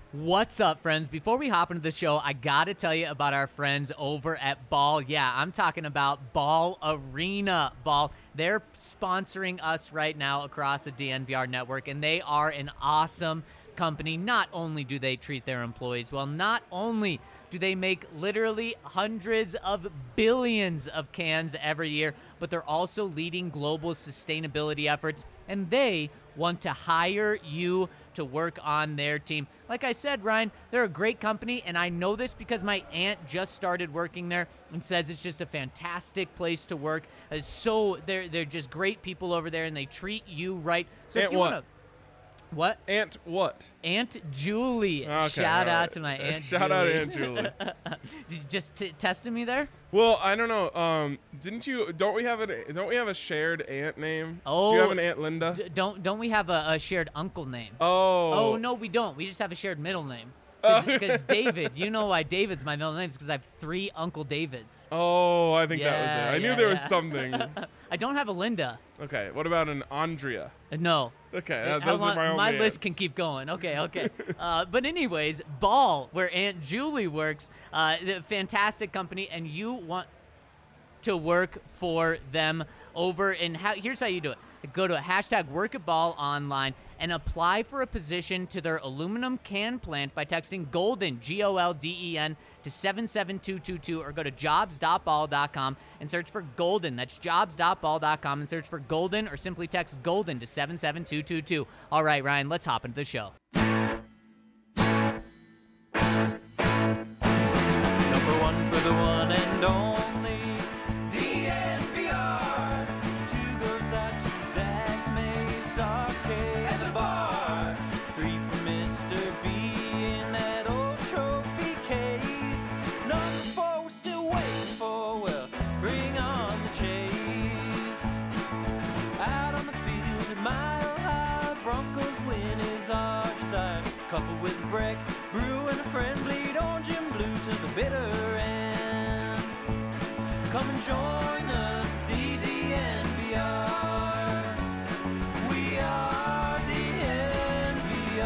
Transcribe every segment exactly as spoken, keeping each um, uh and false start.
What's up, friends? Before we hop into the show, I gotta tell you about our friends over at Ball. Yeah, I'm talking about Ball Arena. Ball, they're sponsoring us right now across the D N V R network, and they are an awesome company. Not only do they treat their employees well, not only do they make literally hundreds of billions of cans every year, but they're also leading global sustainability efforts, and they want to hire you to work on their team. Like I said, Ryan, they're a great company, and I know this because my aunt just started working there and says it's just a fantastic place to work. Uh, So they're they're just great people over there, and they treat you right. So Aunt if you what? want to, what? Aunt what? Aunt Julie. Okay, Shout all out right. to my Uh, Aunt Shout Julie. out Aunt Julie. You just t- testing me there? Well, I don't know. Um, didn't you? Don't we have an? Don't we have a shared aunt name? Oh, Do you have an Aunt Linda? D- don't don't we have a, a shared uncle name? oh. Oh, no, we don't. We just have a shared middle name. Oh. Because David, you know why David's my middle name is because I have three Uncle Davids. Oh, I think that was Yeah, it. I knew yeah, there was yeah. something. I don't have a Linda. Okay. What about an Andrea? Uh, No. Okay, Uh, that, how those long- are my only My list aunts. can keep going. Okay, okay. uh, but anyways, Ball, where Aunt Julie works, uh, the fantastic company, and you want to work for them over and how here's how you do it. Go to hashtag work at Ball online and apply for a position to their aluminum can plant by texting golden, G O L D E N, to seven seven two two two, or go to jobs dot ball dot com and search for golden. That's jobs dot ball dot com and search for golden, or simply text golden to seven seven two two two. All right, Ryan, let's hop into the show. Number one for the one and only D N V R. Two goes out to Zach Mace, Arcade, and the bar. Three for Mister B in that old trophy case. Number four we're still waiting for, well, bring on the chase. Out on the field at Mile High, Broncos win is our desire. Coupled with a break, brew and a friend, bleed orange and blue to the bitter end. Come and join us, D D N V R. We are D N V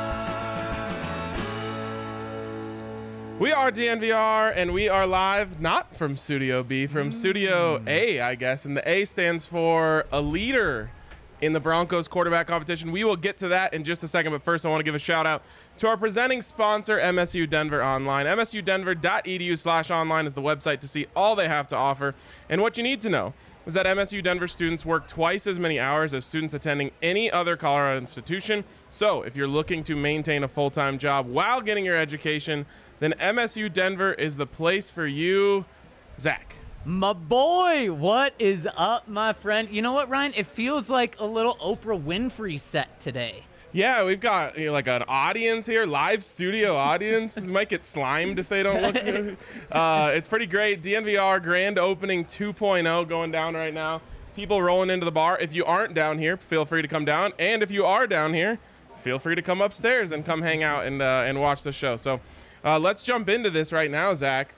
R. We are D N V R, and we are live not from Studio B, from Studio A, I guess. And the A stands for a leader in the Broncos quarterback competition. We will get to that in just a second, but first I want to give a shout out to our presenting sponsor, M S U Denver Online. M S U Denver dot E D U slash online is the website to see all they have to offer. And what you need to know is that M S U Denver students work twice as many hours as students attending any other Colorado institution. So if you're looking to maintain a full-time job while getting your education, then M S U Denver is the place for you. Zach. My boy, what is up, my friend? You know what, Ryan? It feels like a little Oprah Winfrey set today. Yeah, we've got you know, like an audience here, live studio audience. This might get slimed if they don't look good. Uh, it's pretty great. D N V R grand opening two point oh going down right now. People rolling into the bar. If you aren't down here, feel free to come down. And if you are down here, feel free to come upstairs and come hang out and uh, and watch the show. So uh, let's jump into this right now, Zach.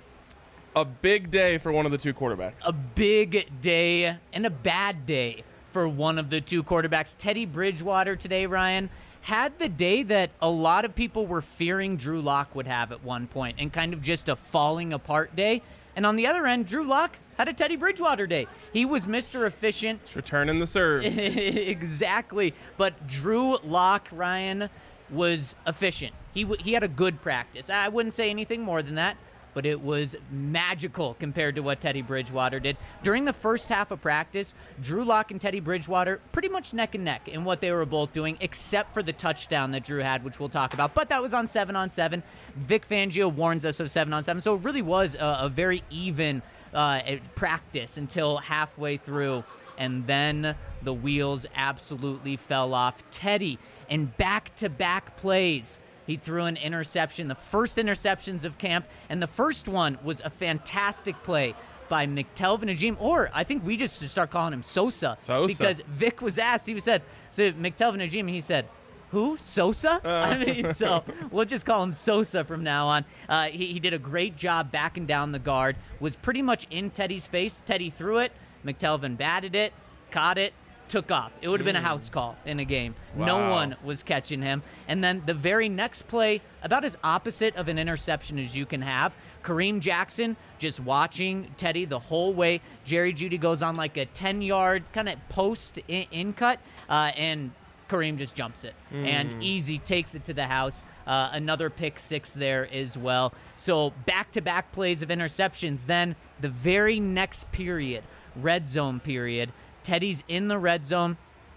A big day for one of the two quarterbacks. A big day and a bad day for one of the two quarterbacks. Teddy Bridgewater today, Ryan, had the day that a lot of people were fearing Drew Lock would have at one point, and kind of just a falling apart day. And on the other end, Drew Lock had a Teddy Bridgewater day. He was Mister Efficient. It's returning the serve. Exactly. But Drew Lock, Ryan, was efficient. He w- he had a good practice. I wouldn't say anything more than that, but it was magical compared to what Teddy Bridgewater did. During the first half of practice, Drew Lock and Teddy Bridgewater pretty much neck and neck in what they were both doing, except for the touchdown that Drew had, which we'll talk about. But that was on seven on seven. Vic Fangio warns us of seven on seven, so it really was a, a very even uh, practice until halfway through. And then the wheels absolutely fell off. Teddy, in back-to-back plays, he threw an interception, the first interceptions of camp, and the first one was a fantastic play by McTelvin Najim, or I think we just should start calling him Sosa. Sosa. Because Vic was asked, he said, so McTelvin Najim, and he said, who? Sosa? Uh. I mean, so we'll just call him Sosa from now on. Uh, he, he did a great job backing down the guard, was pretty much in Teddy's face. Teddy threw it, McTelvin batted it, caught it, took off. It would have been a house call in a game. No Wow. one was catching him. And then the very next play, about as opposite of an interception as you can have. Kareem Jackson just watching Teddy the whole way. Jerry Jeudy goes on like a ten-yard kind of post in, in cut, uh, and Kareem just jumps it and easy takes it to the house. Uh, another pick six there as well. So back-to-back plays of interceptions. Then the very next period, red zone period, Teddy's in the red zone.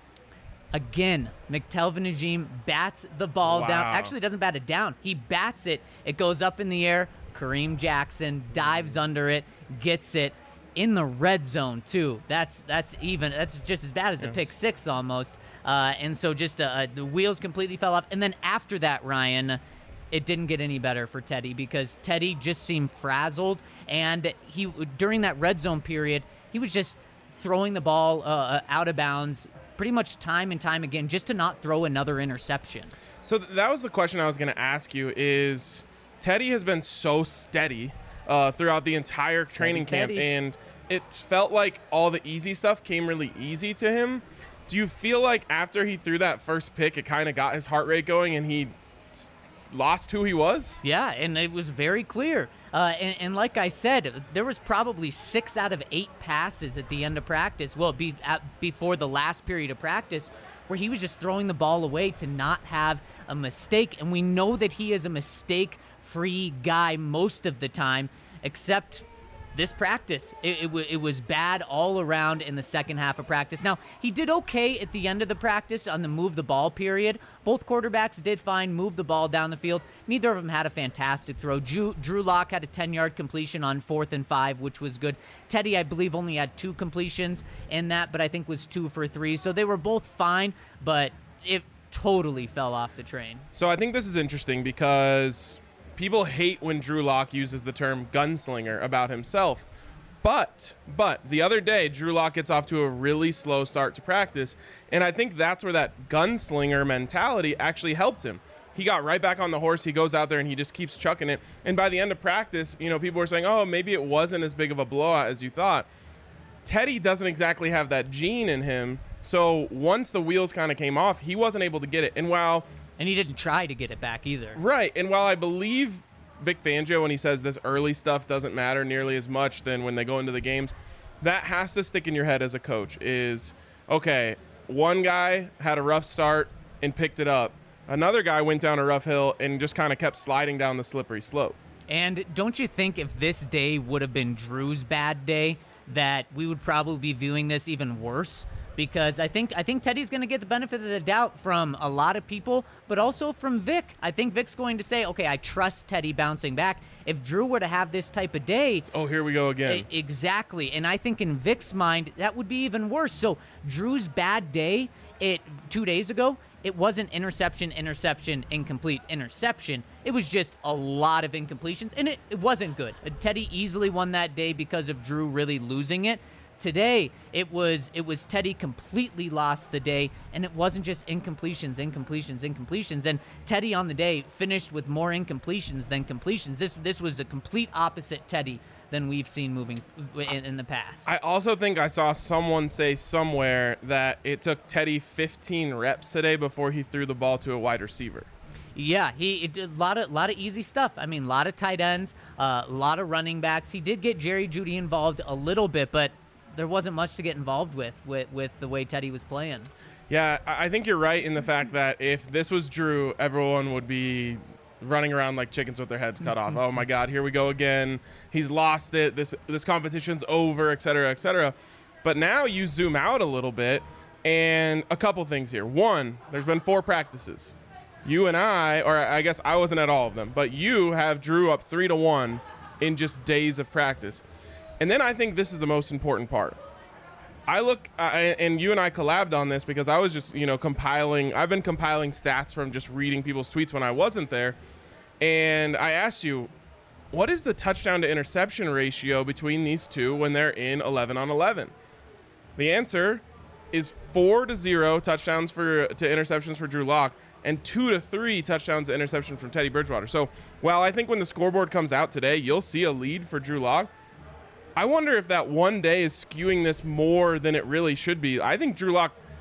Again, McTelvin Najim bats the ball Wow. down. Actually, doesn't bat it down. He bats it. It goes up in the air. Kareem Jackson dives under it, gets it in the red zone too. That's that's even. That's just as bad as a Yes. pick six almost. Uh, and so just uh, the wheels completely fell off. And then after that, Ryan, it didn't get any better for Teddy because Teddy just seemed frazzled. And he during that red zone period, he was just throwing the ball uh, out of bounds pretty much time and time again just to not throw another interception. So th- that was the question I was going to ask you is Teddy has been so steady uh, throughout the entire Steady training camp, Teddy. and it felt like all the easy stuff came really easy to him. Do you feel like after he threw that first pick, it kind of got his heart rate going and he s- lost who he was? Yeah, and it was very clear. Uh, and, and like I said, there was probably six out of eight passes at the end of practice. Well, be at, before the last period of practice, where he was just throwing the ball away to not have a mistake. And we know that he is a mistake-free guy most of the time, except this practice. It, it, w- it was bad all around in the second half of practice. Now, he did okay at the end of the practice on the move the ball period. Both quarterbacks did fine, move the ball down the field. Neither of them had a fantastic throw. Drew, Drew Lock had a ten-yard completion on fourth and five, which was good. Teddy, I believe, only had two completions in that, but I think was two for three. So they were both fine, but it totally fell off the train. So I think this is interesting because people hate when Drew Lock uses the term gunslinger about himself. But, but the other day, Drew Lock gets off to a really slow start to practice. And I think that's where that gunslinger mentality actually helped him. He got right back on the horse. He goes out there and he just keeps chucking it. And by the end of practice, you know, people were saying, oh, maybe it wasn't as big of a blowout as you thought. Teddy doesn't exactly have that gene in him. So once the wheels kind of came off, he wasn't able to get it. And while And he didn't try to get it back either. Right, and while I believe Vic Fangio when he says this early stuff doesn't matter nearly as much than when they go into the games, that has to stick in your head as a coach is, okay, one guy had a rough start and picked it up. Another guy went down a rough hill and just kind of kept sliding down the slippery slope. And don't you think if this day would have been Drew's bad day, that we would probably be viewing this even worse? Because I think I think Teddy's going to get the benefit of the doubt from a lot of people, but also from Vic. I think Vic's going to say, okay, I trust Teddy bouncing back. If Drew were to have this type of day, Oh, here we go again. E- Exactly. And I think in Vic's mind, that would be even worse. So Drew's bad day, it two days ago, it wasn't interception, interception, incomplete, interception. It was just a lot of incompletions, and it, it wasn't good. Teddy easily won that day because of Drew really losing it. Today, it was it was Teddy completely lost the day, and it wasn't just incompletions, incompletions, incompletions. And Teddy on the day finished with more incompletions than completions. This this was a complete opposite Teddy than we've seen moving in, in the past. I also think I saw someone say somewhere that it took Teddy fifteen reps today before he threw the ball to a wide receiver. Yeah, he it did a lot of lot of easy stuff. I mean, a lot of tight ends, a uh, lot of running backs. He did get Jerry Jeudy involved a little bit, but there wasn't much to get involved with, with with the way Teddy was playing. Yeah, I I think you're right in the fact that if this was Drew, everyone would be running around like chickens with their heads cut off. Oh my God, here we go again. He's lost it. This this competition's over, et cetera, et cetera. But now you zoom out a little bit, and a couple things here. One, there's been four practices. You and I, or I guess I wasn't at all of them, but you have Drew up three to one in just days of practice. And then I think this is the most important part. I look, uh, and you and I collabed on this because I was just, you know, compiling. I've been compiling stats from just reading people's tweets when I wasn't there. And I asked you, what is the touchdown to interception ratio between these two when they're in eleven on eleven? The answer is four to zero touchdowns for to interceptions for Drew Lock and two to three touchdowns to interception from Teddy Bridgewater. So while I think when the scoreboard comes out today, you'll see a lead for Drew Lock, I wonder if that one day is skewing this more than it really should be. I think Drew Lock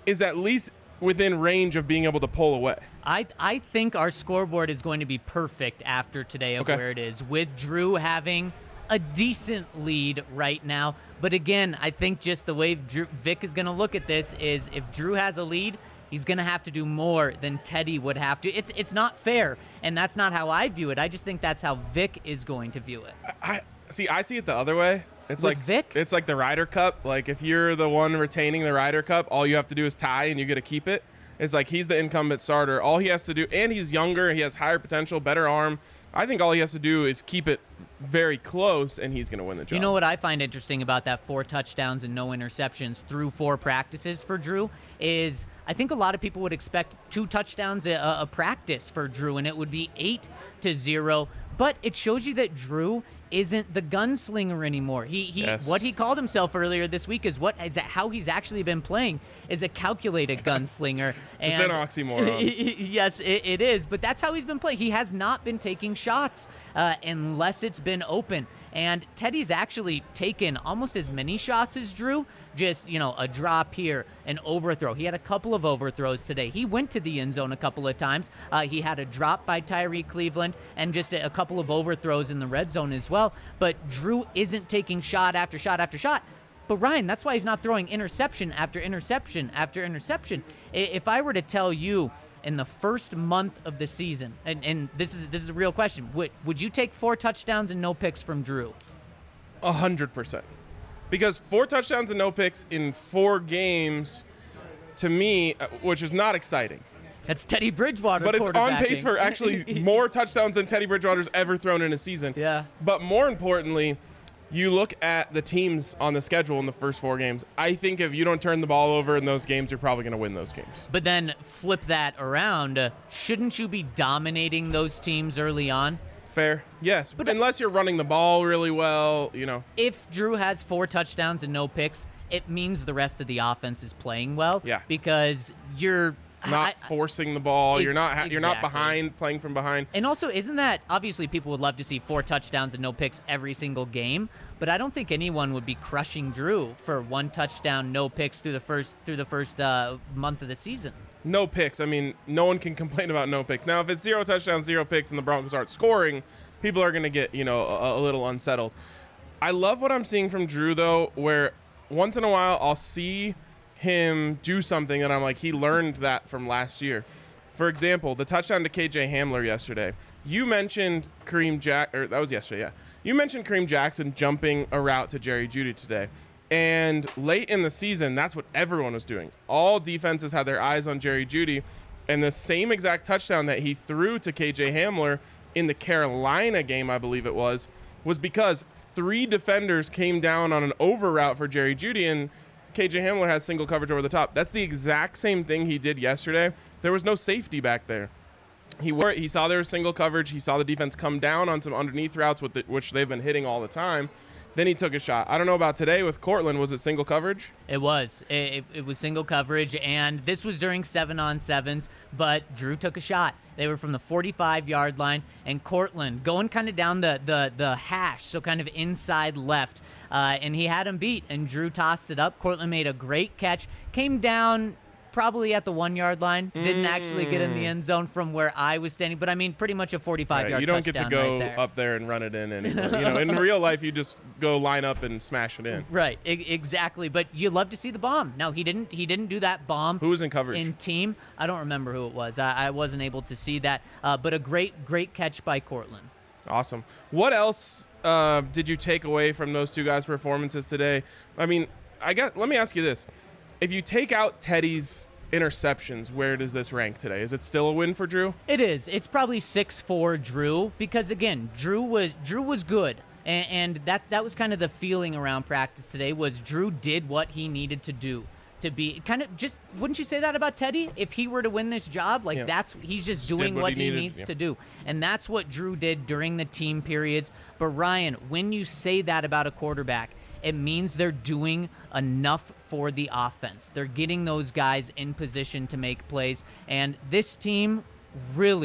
is at least within range of being able to pull away. I I think our scoreboard is going to be perfect after today of Okay. where it is, with Drew having a decent lead right now. But again, I think just the way Drew, Vic is going to look at this is if Drew has a lead, he's going to have to do more than Teddy would have to. It's it's not fair, and that's not how I view it. I just think that's how Vic is going to view it. I see. I see it the other way. It's With like Vic? It's like the Ryder Cup. Like if you're the one retaining the Ryder Cup, all you have to do is tie, and you get to keep it. It's like he's the incumbent starter. All he has to do, and he's younger. He has higher potential, better arm. I think all he has to do is keep it very close, and he's going to win the job. You know what I find interesting about that four touchdowns and no interceptions through four practices for Drew is I think a lot of people would expect two touchdowns a, a practice for Drew, and it would be eight to zero. But it shows you that Drew isn't the gunslinger anymore. He he Yes. what he called himself earlier this week is what is how he's actually been playing is a calculated gunslinger. It's And an oxymoron. yes, it, it is. But that's how he's been playing. He has not been taking shots uh, unless it's been open. And Teddy's actually taken almost as many shots as Drew. Just, you know, a drop here, an overthrow. He had a couple of overthrows today. He went to the end zone a couple of times. Uh, he had a drop by Tyree Cleveland and just a, a couple of overthrows in the red zone as well. But Drew isn't taking shot after shot after shot. But Ryan, that's why he's not throwing interception after interception after interception. I- If I were to tell you in the first month of the season, and, and this is this is a real question, would would you take four touchdowns and no picks from Drew? A hundred percent. Because four touchdowns and no picks in four games, to me, uh, which is not exciting. That's Teddy Bridgewater. But it's on pace quarterbacking. for actually more touchdowns than Teddy Bridgewater's ever thrown in a season. Yeah. But more importantly, you look at the teams on the schedule in the first four games. I think if you don't turn the ball over in those games, you're probably going to win those games. But then flip that around. Uh, shouldn't you be dominating those teams early on? Fair. Yes. But unless you're running the ball really well, you know. If Drew has four touchdowns and no picks, it means the rest of the offense is playing well. Yeah. Because you're Not I- forcing the ball. E- You're not ha- you're not exactly. behind, playing from behind. And also, isn't that obviously people would love to see four touchdowns and no picks every single game, but I don't think anyone would be crushing Drew for one touchdown, no picks through the first through the first uh, month of the season. No picks. I mean, no one can complain about no picks. Now, if it's zero touchdowns, zero picks, and the Broncos aren't scoring, people are going to get, you know, a, a little unsettled. I love what I'm seeing from Drew, though, where once in a while I'll see him do something and I'm like, he learned that from last year. For example, the touchdown to K J Hamler yesterday. You mentioned Kareem Jack, or that was yesterday, yeah. You mentioned Kareem Jackson jumping a route to Jerry Jeudy today. And late in the season, that's what everyone was doing. All defenses had their eyes on Jerry Jeudy. And the same exact touchdown that he threw to K J Hamler in the Carolina game, I believe it was, was because three defenders came down on an over route for Jerry Jeudy, and K J Hamler has single coverage over the top. That's the exact same thing he did yesterday. There was no safety back there. He wore it. He saw there was single coverage. He saw the defense come down on some underneath routes, with the, which they've been hitting all the time. Then he took a shot. I don't know about today with Cortland. Was it single coverage? It was. It, it, it was single coverage, and this was during seven on sevens, but Drew took a shot. They were from the forty-five yard line, and Cortland going kind of down the, the, the hash, so kind of inside left, uh, and he had him beat, and Drew tossed it up. Cortland made a great catch, came down probably at the one yard line, didn't actually get in the end zone from where I was standing, but I mean pretty much a forty-five yard Right, you don't get to touchdown go right there. up there and run it in anymore. You know, in real life, you just go line up and smash it in. Right, e- exactly. But you love to see the bomb. Now he didn't. He didn't do that bomb. Who was in coverage? In team, I don't remember who it was. I, I wasn't able to see that. Uh, but a great, great catch by Cortland. Awesome. What else uh, did you take away from those two guys' performances today? I mean, I got. Let me ask you this: if you take out Teddy's interceptions, where does this rank today? Is it still a win for Drew? It is. It's probably six four Drew because again, Drew was Drew was good. And, and that that was kind of the feeling around practice today was Drew did what he needed to do to be kind of just wouldn't you say that about Teddy? If he were to win this job, like Yeah. that's he's just, Just doing did what what, he he, needed, needs yeah. to do. And that's what Drew did during the team periods. But Ryan, when you say that about a quarterback, it means they're doing enough for the offense. They're getting those guys in position to make plays. And this team really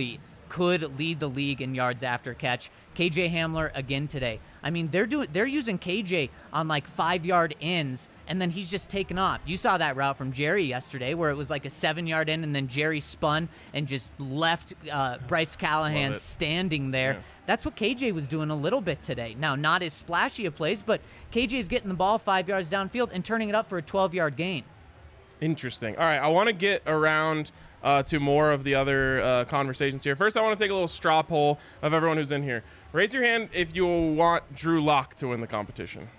could lead the league in yards after catch. K J Hamler again today. I mean, they're doing they're using K J on like five-yard ins, and then he's just taken off. You saw that route from Jerry yesterday where it was like a seven-yard in, and then Jerry spun and just left uh, Bryce Callahan standing there. Yeah. That's what K J was doing a little bit today. Now, not as splashy of plays, but K J's getting the ball five yards downfield and turning it up for a twelve-yard gain. Interesting. All right, I want to get around uh, to more of the other uh, conversations here. First, I want to take a little straw poll of everyone who's in here. Raise your hand if you want Drew Lock to win the competition.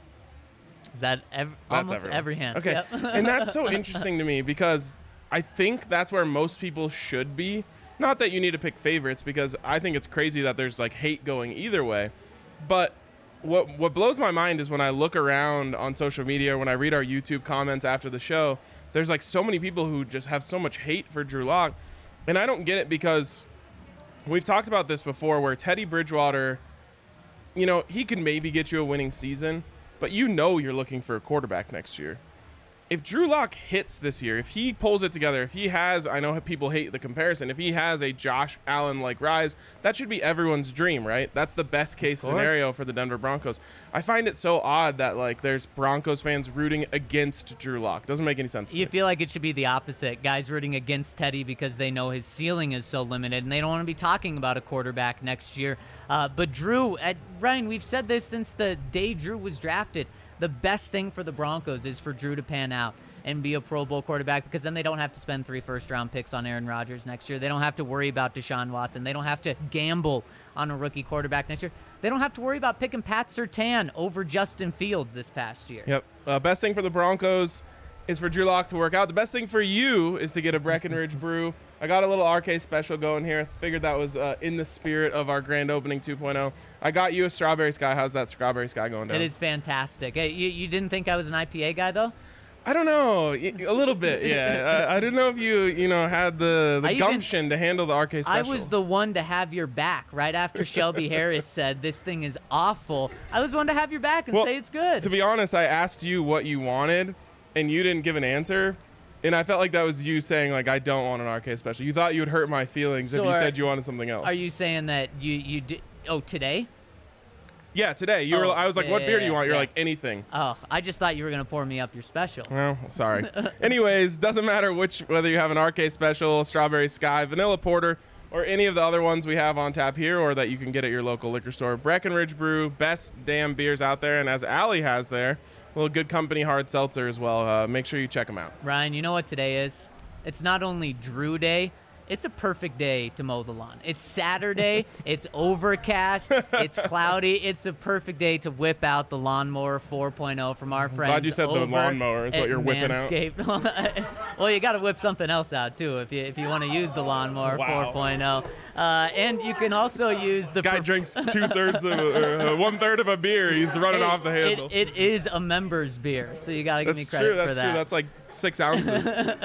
Is that ev- That's almost everyone. every hand? Okay, Yep. and that's so interesting to me because I think that's where most people should be. Not that you need to pick favorites, because I think it's crazy that there's like hate going either way. But what what blows my mind is when I look around on social media, when I read our YouTube comments after the show, there's like so many people who just have so much hate for Drew Lock. And I don't get it because we've talked about this before where Teddy Bridgewater, you know, he could maybe get you a winning season, but you know you're looking for a quarterback next year. If Drew Lock hits this year, if he pulls it together, if he has, I know people hate the comparison, if he has a Josh Allen-like rise, that should be everyone's dream, right? That's the best case scenario for the Denver Broncos. I find it so odd that like there's Broncos fans rooting against Drew Lock. Doesn't make any sense to You me. feel like it should be the opposite. Guys rooting against Teddy because they know his ceiling is so limited, and they don't want to be talking about a quarterback next year. Uh, but Drew, at, Ryan, we've said this since the day Drew was drafted. The best thing for the Broncos is for Drew to pan out and be a Pro Bowl quarterback, because then they don't have to spend three first-round picks on Aaron Rodgers next year. They don't have to worry about Deshaun Watson. They don't have to gamble on a rookie quarterback next year. They don't have to worry about picking Pat Surtain over Justin Fields this past year. Yep. Uh, best thing for the Broncos is for Drew Lock to work out. The best thing for you is to get a Breckenridge brew. I got a little R K special going here. Figured that was uh, in the spirit of our grand opening two point oh. I got you a Strawberry Sky. How's that Strawberry Sky going down? It is fantastic. Hey, you, you didn't think I was an I P A guy, though? I don't know. Y- A little bit, yeah. I, I didn't know if you, you know, had the, the I even- gumption to handle the R K I special. was the one to have your back right after Shelby Harris said this thing is awful. I was one to have your back and Well, say it's good. To be honest, I asked you what you wanted, and you didn't give an answer. And I felt like that was you saying, like, I don't want an R K special. You thought you would hurt my feelings So if you are- said you wanted something else. Are you saying that you you did? Oh, today? Yeah, today. You Oh, were. I was like, yeah, what yeah, beer do you yeah, want? You're yeah. like, anything. Oh, I just thought you were gonna pour me up your special. Well, sorry. Anyways, doesn't matter which, whether you have an R K special, Strawberry Sky, Vanilla Porter, or any of the other ones we have on tap here, or that you can get at your local liquor store. Breckenridge Brew, best damn beers out there. And as Allie has there, a little Good Company hard seltzer as well. Uh, make sure you check them out. Ryan, you know what today is? It's not only Drew Day. It's a perfect day to mow the lawn. It's Saturday. It's overcast. It's cloudy. It's a perfect day to whip out the Lawnmower four point oh from our friends. Glad you said the over lawnmower is what at you're whipping out. Manscaped. Well, you got to whip something else out too if you if you want to use the Lawnmower Wow. four point oh. Uh, and you can also use the This guy perf- drinks two thirds of a, uh, one third of a beer. He's running It- off the handle. It, it is a members beer, so you got to give That's me credit true. That's for that. true. That's like six ounces.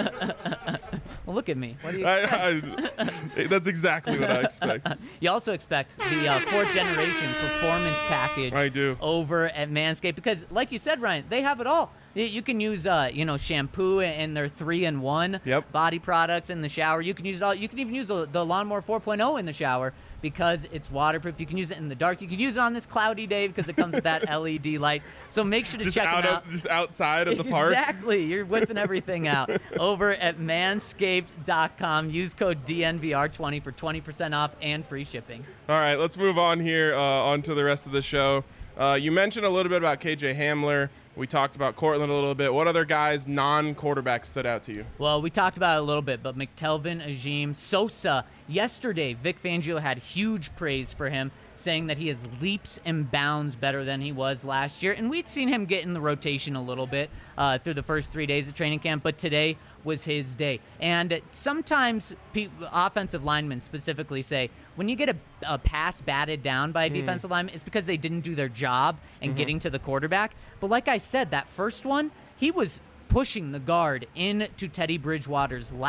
Well, look at me. What do you I, expect? I, that's exactly what I expect. You also expect the uh, fourth generation performance package I do. over at Manscaped because, like you said, Ryan, they have it all. You- You can use, uh, you know, shampoo and their three-in-one Yep. body products in the shower. You can use it all. You can even use the the Lawnmower four point oh in the shower because it's waterproof. You can use it in the dark. You can use it on this cloudy day because it comes with that L E D light. So make sure to Just check out them of, out. just outside of the park. Exactly. You're whipping everything out over at manscaped dot com. Use code D N V R twenty for twenty percent off and free shipping. All right, let's move on here uh, on to the rest of the show. Uh, you mentioned a little bit about K J Hamler. We talked about Cortland a little bit. What other guys, non-quarterbacks, stood out to you? Well, we talked about it a little bit, but McTelvin, Ajim, Sosa. Yesterday, Vic Fangio had huge praise for him, saying that he is leaps and bounds better than he was last year. And we'd seen him get in the rotation a little bit uh, through the first three days of training camp, but today was his day. And sometimes pe- offensive linemen specifically say, when you get a, a pass batted down by a Hmm. defensive lineman, it's because they didn't do their job in Mm-hmm. getting to the quarterback. But like I said, that first one, he was pushing the guard into Teddy Bridgewater's lap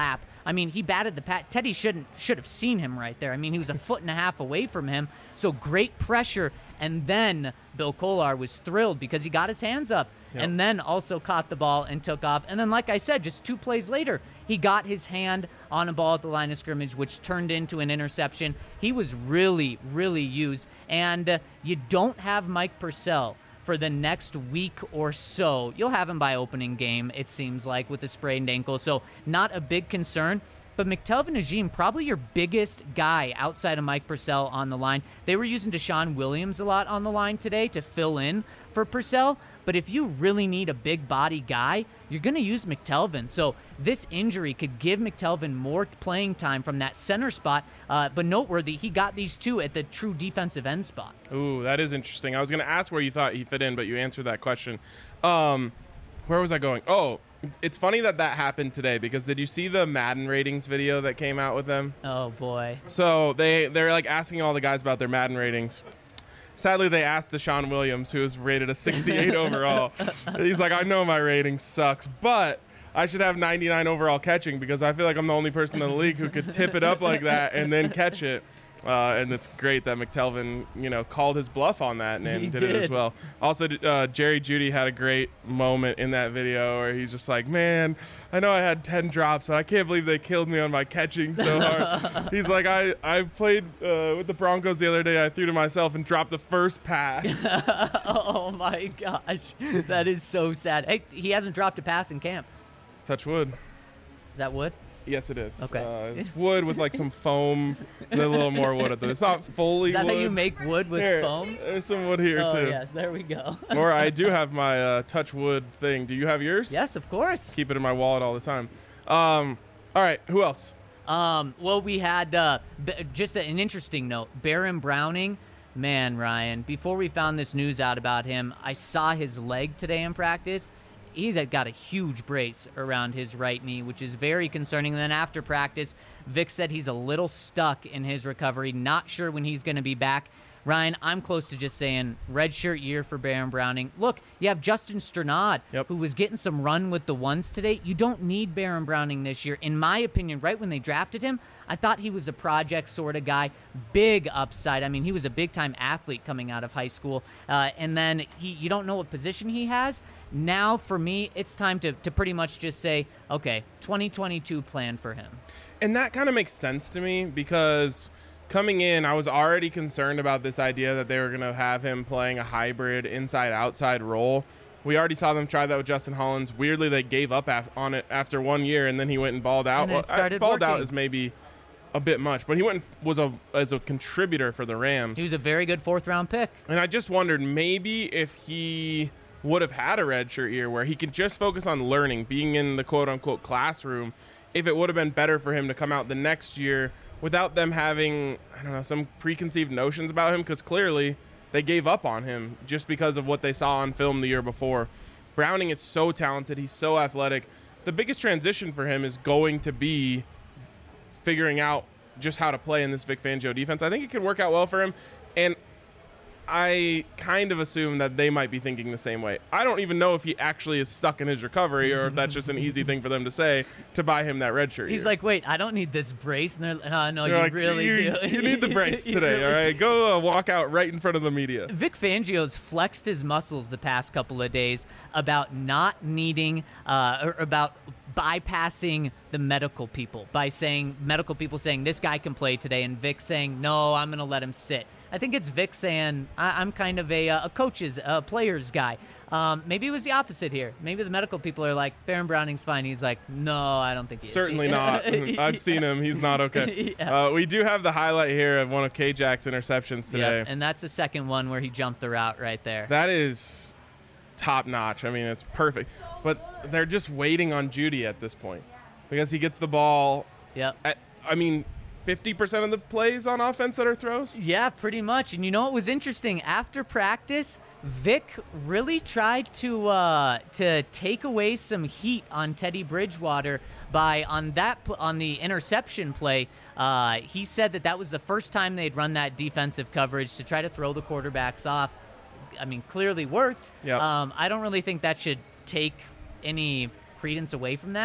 I mean, he batted the pat. Teddy shouldn't should have seen him right there. I mean, he was a foot and a half away from him. So great pressure. And then Bill Kolar was thrilled because he got his hands up Yep. and then also caught the ball and took off. And then, like I said, just two plays later, he got his hand on a ball at the line of scrimmage, which turned into an interception. He was really, really used. And uh, you don't have Mike Purcell for the next week or so. You'll have him by opening game, it seems like, with a sprained ankle. So not a big concern. But McTelvin Najim, probably your biggest guy outside of Mike Purcell on the line. They were using Deshaun Williams a lot on the line today to fill in for Purcell. But if you really need a big body guy, you're going to use McTelvin. So this injury could give McTelvin more playing time from that center spot. Uh, but noteworthy, he got these two at the true defensive end spot. Ooh, that is interesting. I was going to ask where you thought he fit in, but you answered that question. Um, where was I going? Oh, it's funny that that happened today because did you see the Madden ratings video that came out with them? Oh, boy. So they, they're like asking all the guys about their Madden ratings. Sadly, they asked Deshaun Williams, who was rated a sixty-eight overall. He's like, I know my rating sucks, but I should have ninety-nine overall catching because I feel like I'm the only person in the league who could tip it up like that and then catch it. Uh, and it's great that McTelvin, you know, called his bluff on that and, and He did, it as did. well. Also, uh, Jerry Jeudy had a great moment in that video where he's just like, man, I know I had ten drops, but I can't believe they killed me on my catching so hard. He's like, I, I played uh, with the Broncos the other day. I threw to myself and dropped the first pass. Oh, my gosh. That is so sad. Hey, he hasn't dropped a pass in camp. Touch wood. Is that wood? Yes, it is. Okay. Uh, it's wood with like some foam and a little more wood at the. It's not fully Is that wood. how you make wood with Here, foam? There's some wood here Oh, too. yes. There we go. Or I do have my uh, touch wood thing. Do you have yours? Yes, of course. Keep it in my wallet all the time. Um, all right. Who else? Um, well, we had uh, b- just an interesting note. Baron Browning, man, Ryan, before we found this news out about him, I saw his leg today in practice. He's got a huge brace around his right knee, which is very concerning. And then after practice, Vic said he's a little stuck in his recovery, not sure when he's going to be back. Ryan, I'm close to just saying redshirt year for Baron Browning. Look, you have Justin Strnad, Yep. who was getting some run with the ones today. You don't need Baron Browning this year. In my opinion, right when they drafted him, I thought he was a project sort of guy. Big upside. I mean, he was a big-time athlete coming out of high school. Uh, and then he, you don't know what position he has. Now, for me, it's time to, to pretty much just say, okay, twenty twenty-two plan for him. And that kind of makes sense to me because coming in, I was already concerned about this idea that they were going to have him playing a hybrid inside-outside role. We already saw them try that with Justin Hollins. Weirdly, they gave up af- on it after one year, and then he went and balled out. And it Well, started balled out working. is maybe a bit much, but he went and was a as a contributor for the Rams. He was a very good fourth-round pick. And I just wondered maybe if he would have had a redshirt year where he could just focus on learning, being in the quote-unquote classroom, if it would have been better for him to come out the next year without them having, I don't know, some preconceived notions about him, because clearly they gave up on him just because of what they saw on film the year before. Browning is so talented. He's so athletic. The biggest transition for him is going to be figuring out just how to play in this Vic Fangio defense. I think it could work out well for him. And I kind of assume that they might be thinking the same way. I don't even know if he actually is stuck in his recovery or if that's just an easy thing for them to say to buy him that red shirt. He's year. like, wait, I don't need this brace. And they're like, oh, no, They're you like, really you, do. You need the brace You today, really all right? Go uh, walk out right in front of the media. Vic Fangio's flexed his muscles the past couple of days about not needing, uh, or about bypassing the medical people by saying, medical people saying, this guy can play today, and Vic saying, no, I'm going to let him sit. I think it's Vic saying, I- I'm kind of a, uh, a coach's, a player's guy. Um, maybe it was the opposite here. Maybe the medical people are like, Baron Browning's fine. He's like, no, I don't think he is. Certainly not. I've seen him. He's not okay. Yeah. Uh, we do have the highlight here of one of K-Jack's interceptions today. Yep, and that's the second one where he jumped the route right there. That is top notch. I mean, it's perfect. But they're just waiting on Jeudy at this point because he gets the ball. Yep. At, I mean, fifty percent of the plays on offense that are throws. Yeah, pretty much. And you know what was interesting? After practice, Vic really tried to uh, to take away some heat on Teddy Bridgewater by on that pl- on the interception play. Uh, he said that that was the first time they'd run that defensive coverage to try to throw the quarterbacks off. I mean, clearly worked. Yep. Um, I don't really think that should take any credence away from that,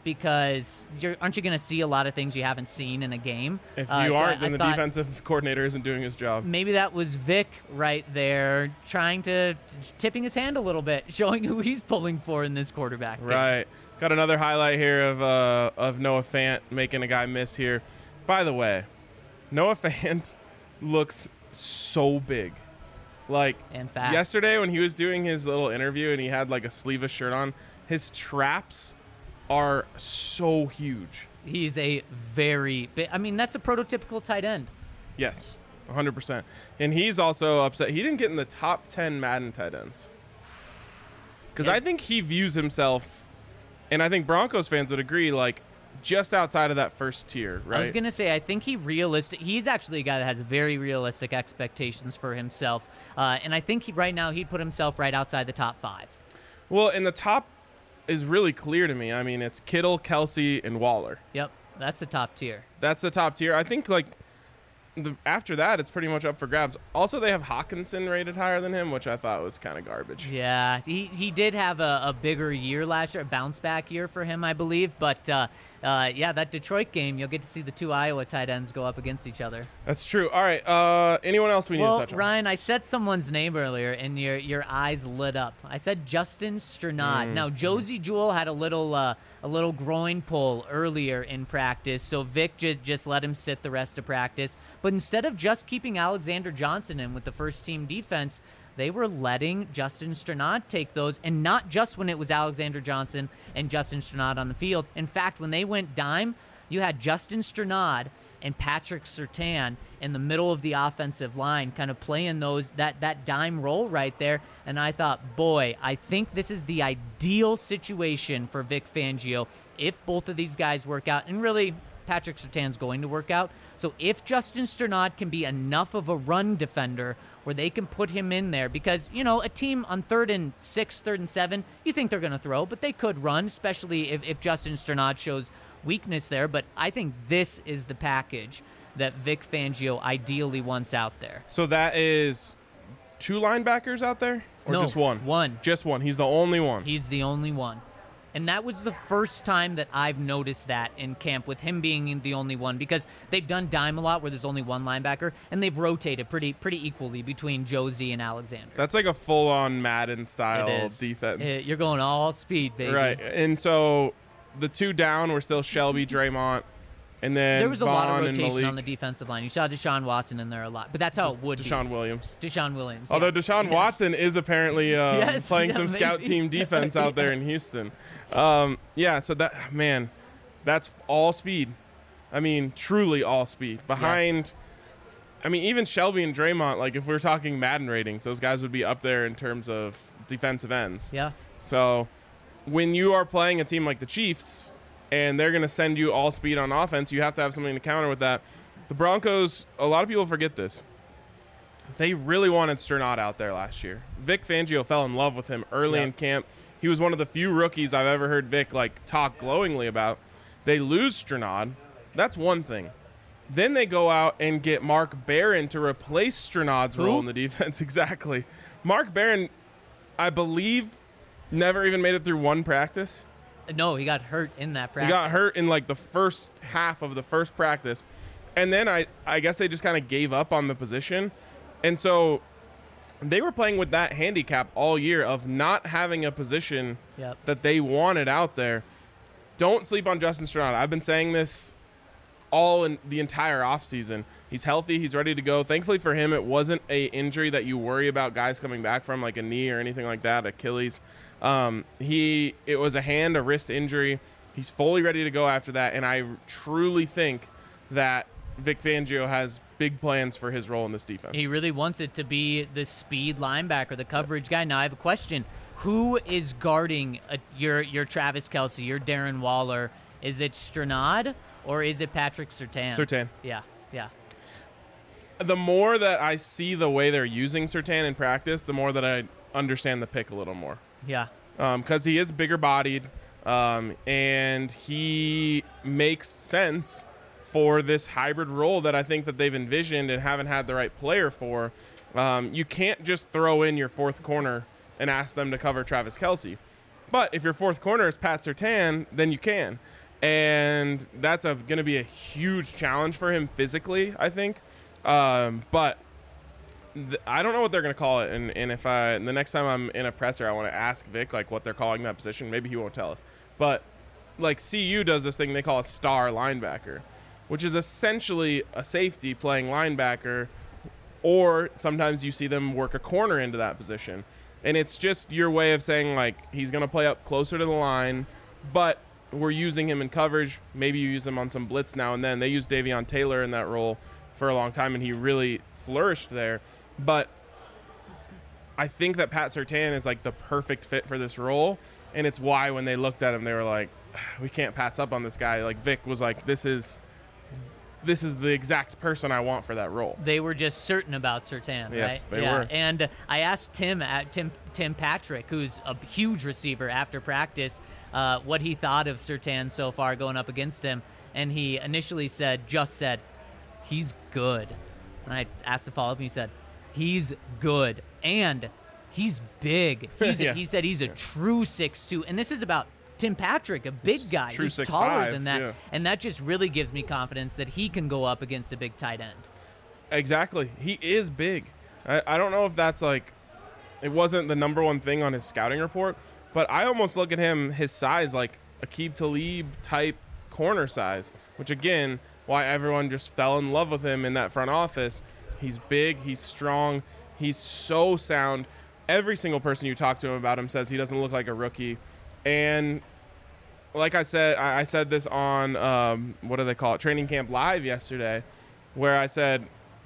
because you're, aren't you going to see a lot of things you haven't seen in a game? If Uh, you so aren't, I- then I the thought defensive coordinator isn't doing his job. Maybe that was Vic right there trying to t- tipping his hand a little bit, showing who he's pulling for in this quarterback game. Right. Got another highlight here of uh, of Noah Fant making a guy miss here. By the way, Noah Fant looks so big. Like And fast. yesterday when he was doing his little interview and he had like a sleeveless shirt on, his traps are so huge. He's a very big, I mean, that's a prototypical tight end. Yes, one hundred percent. And he's also upset. He didn't get in the top ten Madden tight ends. Because Yeah. I think he views himself, and I think Broncos fans would agree, like just outside of that first tier, right? I was going to say, I think he realistic. He's actually a guy that has very realistic expectations for himself. Uh, and I think he, right now he'd put himself right outside the top five. Well, and the top is really clear to me. I mean, it's Kittle, Kelsey, and Waller. Yep, that's the top tier. That's the top tier. I think, like, the, after that, it's pretty much up for grabs. Also, they have Hawkinson rated higher than him, which I thought was kind of garbage. Yeah, he, he did have a, a bigger year last year, a bounce back year for him, I believe. But uh, uh, yeah, that Detroit game, you'll get to see the two Iowa tight ends go up against each other. That's true. All right. Uh, anyone else we need Well, to touch on? Ryan, I said someone's name earlier, and your your eyes lit up. I said Justin Strnad. Mm. Now, Josie Jewell had a little uh, a little groin pull earlier in practice, so Vic just just let him sit the rest of practice. But instead of just keeping Alexander Johnson in with the first team defense, they were letting Justin Strnad take those, and not just when it was Alexander Johnson and Justin Strnad on the field. In fact, when they went dime, you had Justin Strnad and Patrick Surtain in the middle of the offensive line, kind of playing those that that dime role right there. And I thought, boy, I think this is the ideal situation for Vic Fangio if both of these guys work out. And really, Patrick Surtain's going to work out. So if Justin Strnad can be enough of a run defender where they can put him in there, because, you know, a team on third and six, third and seven, you think they're going to throw, but they could run, especially if, if Justin Strnad shows weakness there. But I think this is the package that Vic Fangio ideally wants out there. So that is two linebackers out there? Or No, just one? one. Just one. He's the only one. He's the only one. And that was the first time that I've noticed that in camp, with him being the only one, because they've done dime a lot where there's only one linebacker, and they've rotated pretty pretty equally between Josie and Alexander. That's like a full-on Madden style It is. defense. Uh, You're going all speed, baby. Right. And so the two down were still Shelby, Draymond, and then There was a Vaughn lot of and rotation Malik. on the defensive line. You saw Deshaun Watson in there a lot, but that's how it would Deshaun be. Williams. Deshaun Williams. Although yes. Deshaun Yes. Watson is apparently um, Yes, playing yeah, some scout maybe. team defense out there in Houston. Um, yeah, so that, man, that's all speed. I mean, truly all speed. Behind, I mean, even Shelby and Draymond, like if we were talking Madden ratings, those guys would be up there in terms of defensive ends. Yeah. So when you are playing a team like the Chiefs and they're going to send you all speed on offense, you have to have something to counter with that. The Broncos, a lot of people forget this. They really wanted Strnad out there last year. Vic Fangio fell in love with him early Yep. in camp. He was one of the few rookies I've ever heard Vic like talk glowingly about. They lose Strnad. That's one thing. Then they go out and get Mark Barron to replace Strnad's Who? role in the defense. Exactly. Mark Barron, I believe, never even made it through one practice. No, he got hurt in that practice. He got hurt in like the first half of the first practice. And then I, I guess they just kind of gave up on the position. And so they were playing with that handicap all year of not having a position Yep. that they wanted out there. Don't sleep on Justin Strnad. I've been saying this all in the entire offseason. He's healthy. He's ready to go. Thankfully for him, it wasn't a injury that you worry about guys coming back from, like a knee or anything like that, Achilles. Um, he it was a hand, a wrist injury. He's fully ready to go after that, and I truly think that Vic Fangio has big plans for his role in this defense. He really wants it to be the speed linebacker, the coverage guy. Now I have a question: who is guarding uh your your Travis Kelce, your Darren Waller? Is it Strnad or is it Patrick Surtain? Surtain. Yeah, yeah. The more that I see the way they're using Surtain in practice, the more that I understand the pick a little more. Yeah. Because he is bigger bodied, um, and he makes sense for this hybrid role that I think that they've envisioned and haven't had the right player for. Um, you can't just throw in your fourth corner and ask them to cover Travis Kelce. But if your fourth corner is Pat Surtain, then you can. and that's a going to be a huge challenge for him physically, I think. Um, but th- I don't know what they're going to call it, and, and if I the next time I'm in a presser, I want to ask Vic like what they're calling that position. Maybe he won't tell us, but like C U does this thing they call a star linebacker, which is essentially a safety playing linebacker, or sometimes you see them work a corner into that position. And it's just your way of saying, like, he's going to play up closer to the line, but we're using him in coverage. Maybe you use him on some blitz now and then. They used Davion Taylor in that role for a long time, and he really flourished there. But I think that Pat Surtain is, like, the perfect fit for this role, and it's why when they looked at him, they were like, we can't pass up on this guy. Like, Vic was like, this is this is the exact person I want for that role. They were just certain about Surtain, Yes, right? they yeah. were. And I asked Tim, at Tim, Tim Patrick, who's a huge receiver after practice, uh, what he thought of Surtain so far going up against him. And he initially said, just said, he's good. And I asked the follow-up, and he said, he's good. And he's big. He's Yeah. a, he said he's a true six two. And this is about Tim Patrick, a big guy True who's six taller five, than that. yeah. And that just really gives me confidence that he can go up against a big tight end. Exactly. He is big. I, I don't know if that's like, it wasn't the number one thing on his scouting report, but I almost look at him, his size, like Aqib Talib type corner size, which again, why everyone just fell in love with him in that front office. He's big, he's strong, he's so sound. Every single person you talk to him about him says he doesn't look like a rookie. And like I said, I, I said this on, um, what do they call it, Training Camp Live yesterday, where I said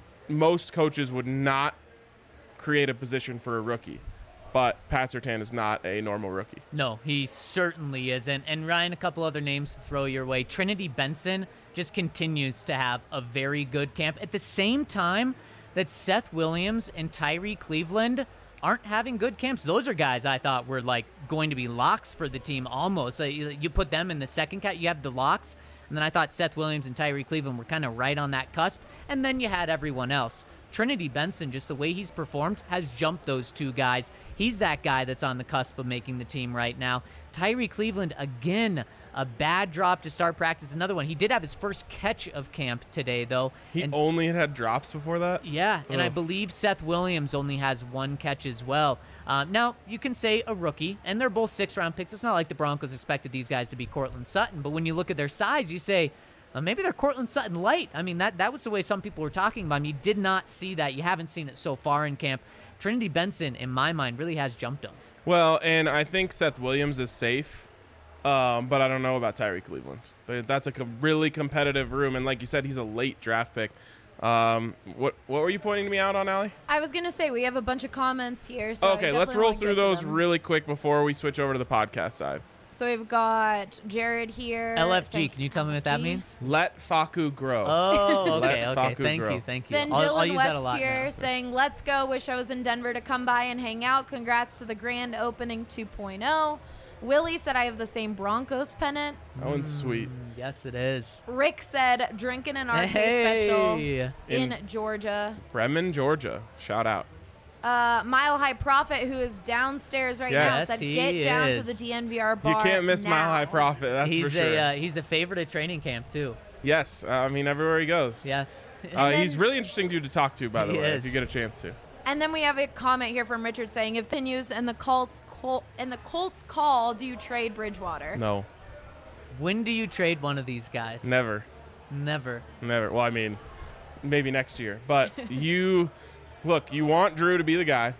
most coaches would not create a position for a rookie, but Pat Surtain is not a normal rookie. No, he certainly isn't. And Ryan, a couple other names to throw your way. Trinity Benson just continues to have a very good camp. At the same time that Seth Williams and Tyree Cleveland aren't having good camps. Those are guys I thought were like going to be locks for the team almost. So you, you put them in the second cat, you have the locks. And then I thought Seth Williams and Tyree Cleveland were kind of right on that cusp. And then you had everyone else. Trinity Benson, just the way he's performed, has jumped those two guys. He's that guy that's on the cusp of making the team right now. Tyree Cleveland, again, a bad drop to start practice. Another one. He did have his first catch of camp today, though. He and, only had had drops before that? yeah, and I Ugh. believe Seth Williams only has one catch as well. Um, now, you can say a rookie, and they're both six-round picks. It's not like the Broncos expected these guys to be Cortland Sutton, but when you look at their size, you say, Uh, maybe they're Cortland Sutton light. I mean, that, that was the way some people were talking about him. You did not see that. You haven't seen it so far in camp. Trinity Benson, in my mind, really has jumped him. Well, and I think Seth Williams is safe, um, but I don't know about Tyree Cleveland. They- That's a co- really competitive room, and like you said, he's a late draft pick. Um, what what were you pointing me out on, Allie? I was going to say, we have a bunch of comments here. So I Okay, let's definitely roll wanna through get to those them. really quick before we switch over to the podcast side. So we've got Jared here. L F G, saying- can you tell me what that L F G? means? Let Faku grow. Oh, Let okay, okay. Faku Thank grow. you, thank you. Then I'll, I'll Dylan use that a West lot here now. saying, let's go. Wish I was in Denver to come by and hang out. Congrats to the grand opening two point oh. Willie said, I have the same Broncos pennant. That one's sweet. Mm, yes, it is. Rick said, drinking an R K special Hey. in, In- Georgia. Bremen, Georgia. Shout out. Uh, Mile High Prophet, who is downstairs right Yes. now, Yes, said, he get down to is. the D N V R bar You can't miss now. Mile High Prophet, that's he's for sure. a uh, he's a favorite at training camp too. Yes, uh, I mean, everywhere he goes. Yes. Uh, then- he's really interesting dude to talk to, by the He way, is. if you get a chance to. And then we have a comment here from Richard saying, if continues and the Colts col- and the Colts call, do you trade Bridgewater? No, When do you trade one of these guys? never. Never. Never. Well, I mean, maybe next year. But you, look, you want Drew to be the guy,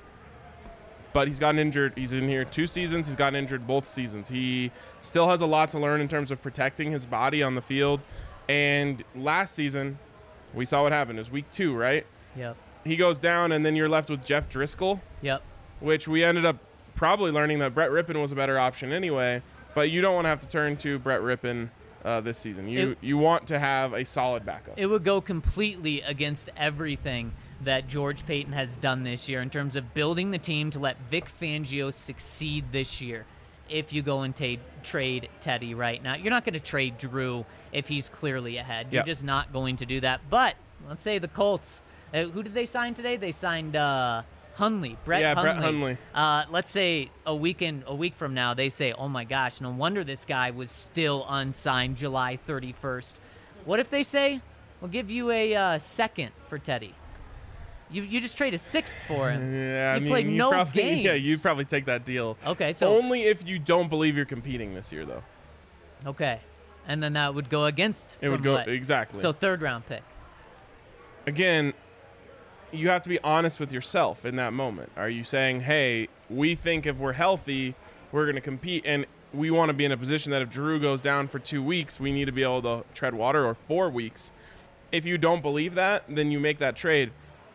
but he's gotten injured. He's in here two seasons. He's gotten injured both seasons. He still has a lot to learn in terms of protecting his body on the field. And last season, we saw what happened. It was week two, right? Yep. He goes down, and then you're left with Jeff Driscoll, Yep. which we ended up probably learning that Brett Rippon was a better option anyway. But you don't want to have to turn to Brett Rippon uh, this season. You It- you want to have a solid backup. It would go completely against everything that George Payton has done this year in terms of building the team to let Vic Fangio succeed this year. If you go and ta- trade Teddy right now, you're not going to trade Drew if he's clearly ahead. You're Yeah. just not going to do that. But let's say the Colts. Uh, who did they sign today? They signed uh, Hundley, Brett Yeah, Hundley. Brett Hundley. Uh, let's say a weekend, a week from now, they say, "Oh my gosh, no wonder this guy was still unsigned July thirty-first." What if they say, "We'll give you a uh, second for Teddy"? You you just trade a sixth for him. Yeah, I you mean, played you no probably, games. Yeah, you'd probably take that deal. Okay, so Only if you don't believe you're competing this year, though. okay, and then that would go against. It would from go what? exactly. So third round pick. Again, you have to be honest with yourself in that moment. Are you saying, hey, we think if we're healthy, we're going to compete, and we want to be in a position that if Drew goes down for two weeks, we need to be able to tread water, or four weeks. If you don't believe that, then you make that trade.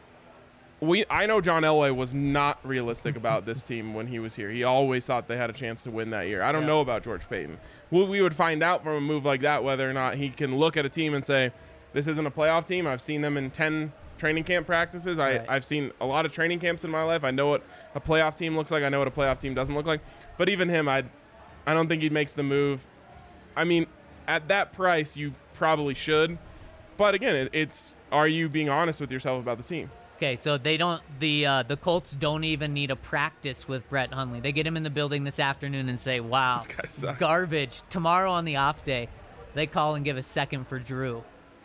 We I know John Elway was not realistic about this team when he was here. He always thought they had a chance to win that year. I don't Yeah. know about George Payton. We, we would find out from a move like that whether or not he can look at a team and say, this isn't a playoff team. I've seen them in ten training camp practices. I, Right. I've seen a lot of training camps in my life. I know what a playoff team looks like. I know what a playoff team doesn't look like. But even him, I I don't think he makes the move. I mean, at that price, you probably should. But again, it, it's are you being honest with yourself about the team? Okay, so they don't. The uh, the Colts don't even need a practice with Brett Hundley. They get him in the building this afternoon and say, "Wow, This guy sucks." garbage." Tomorrow on the off day, they call and give a second for Drew.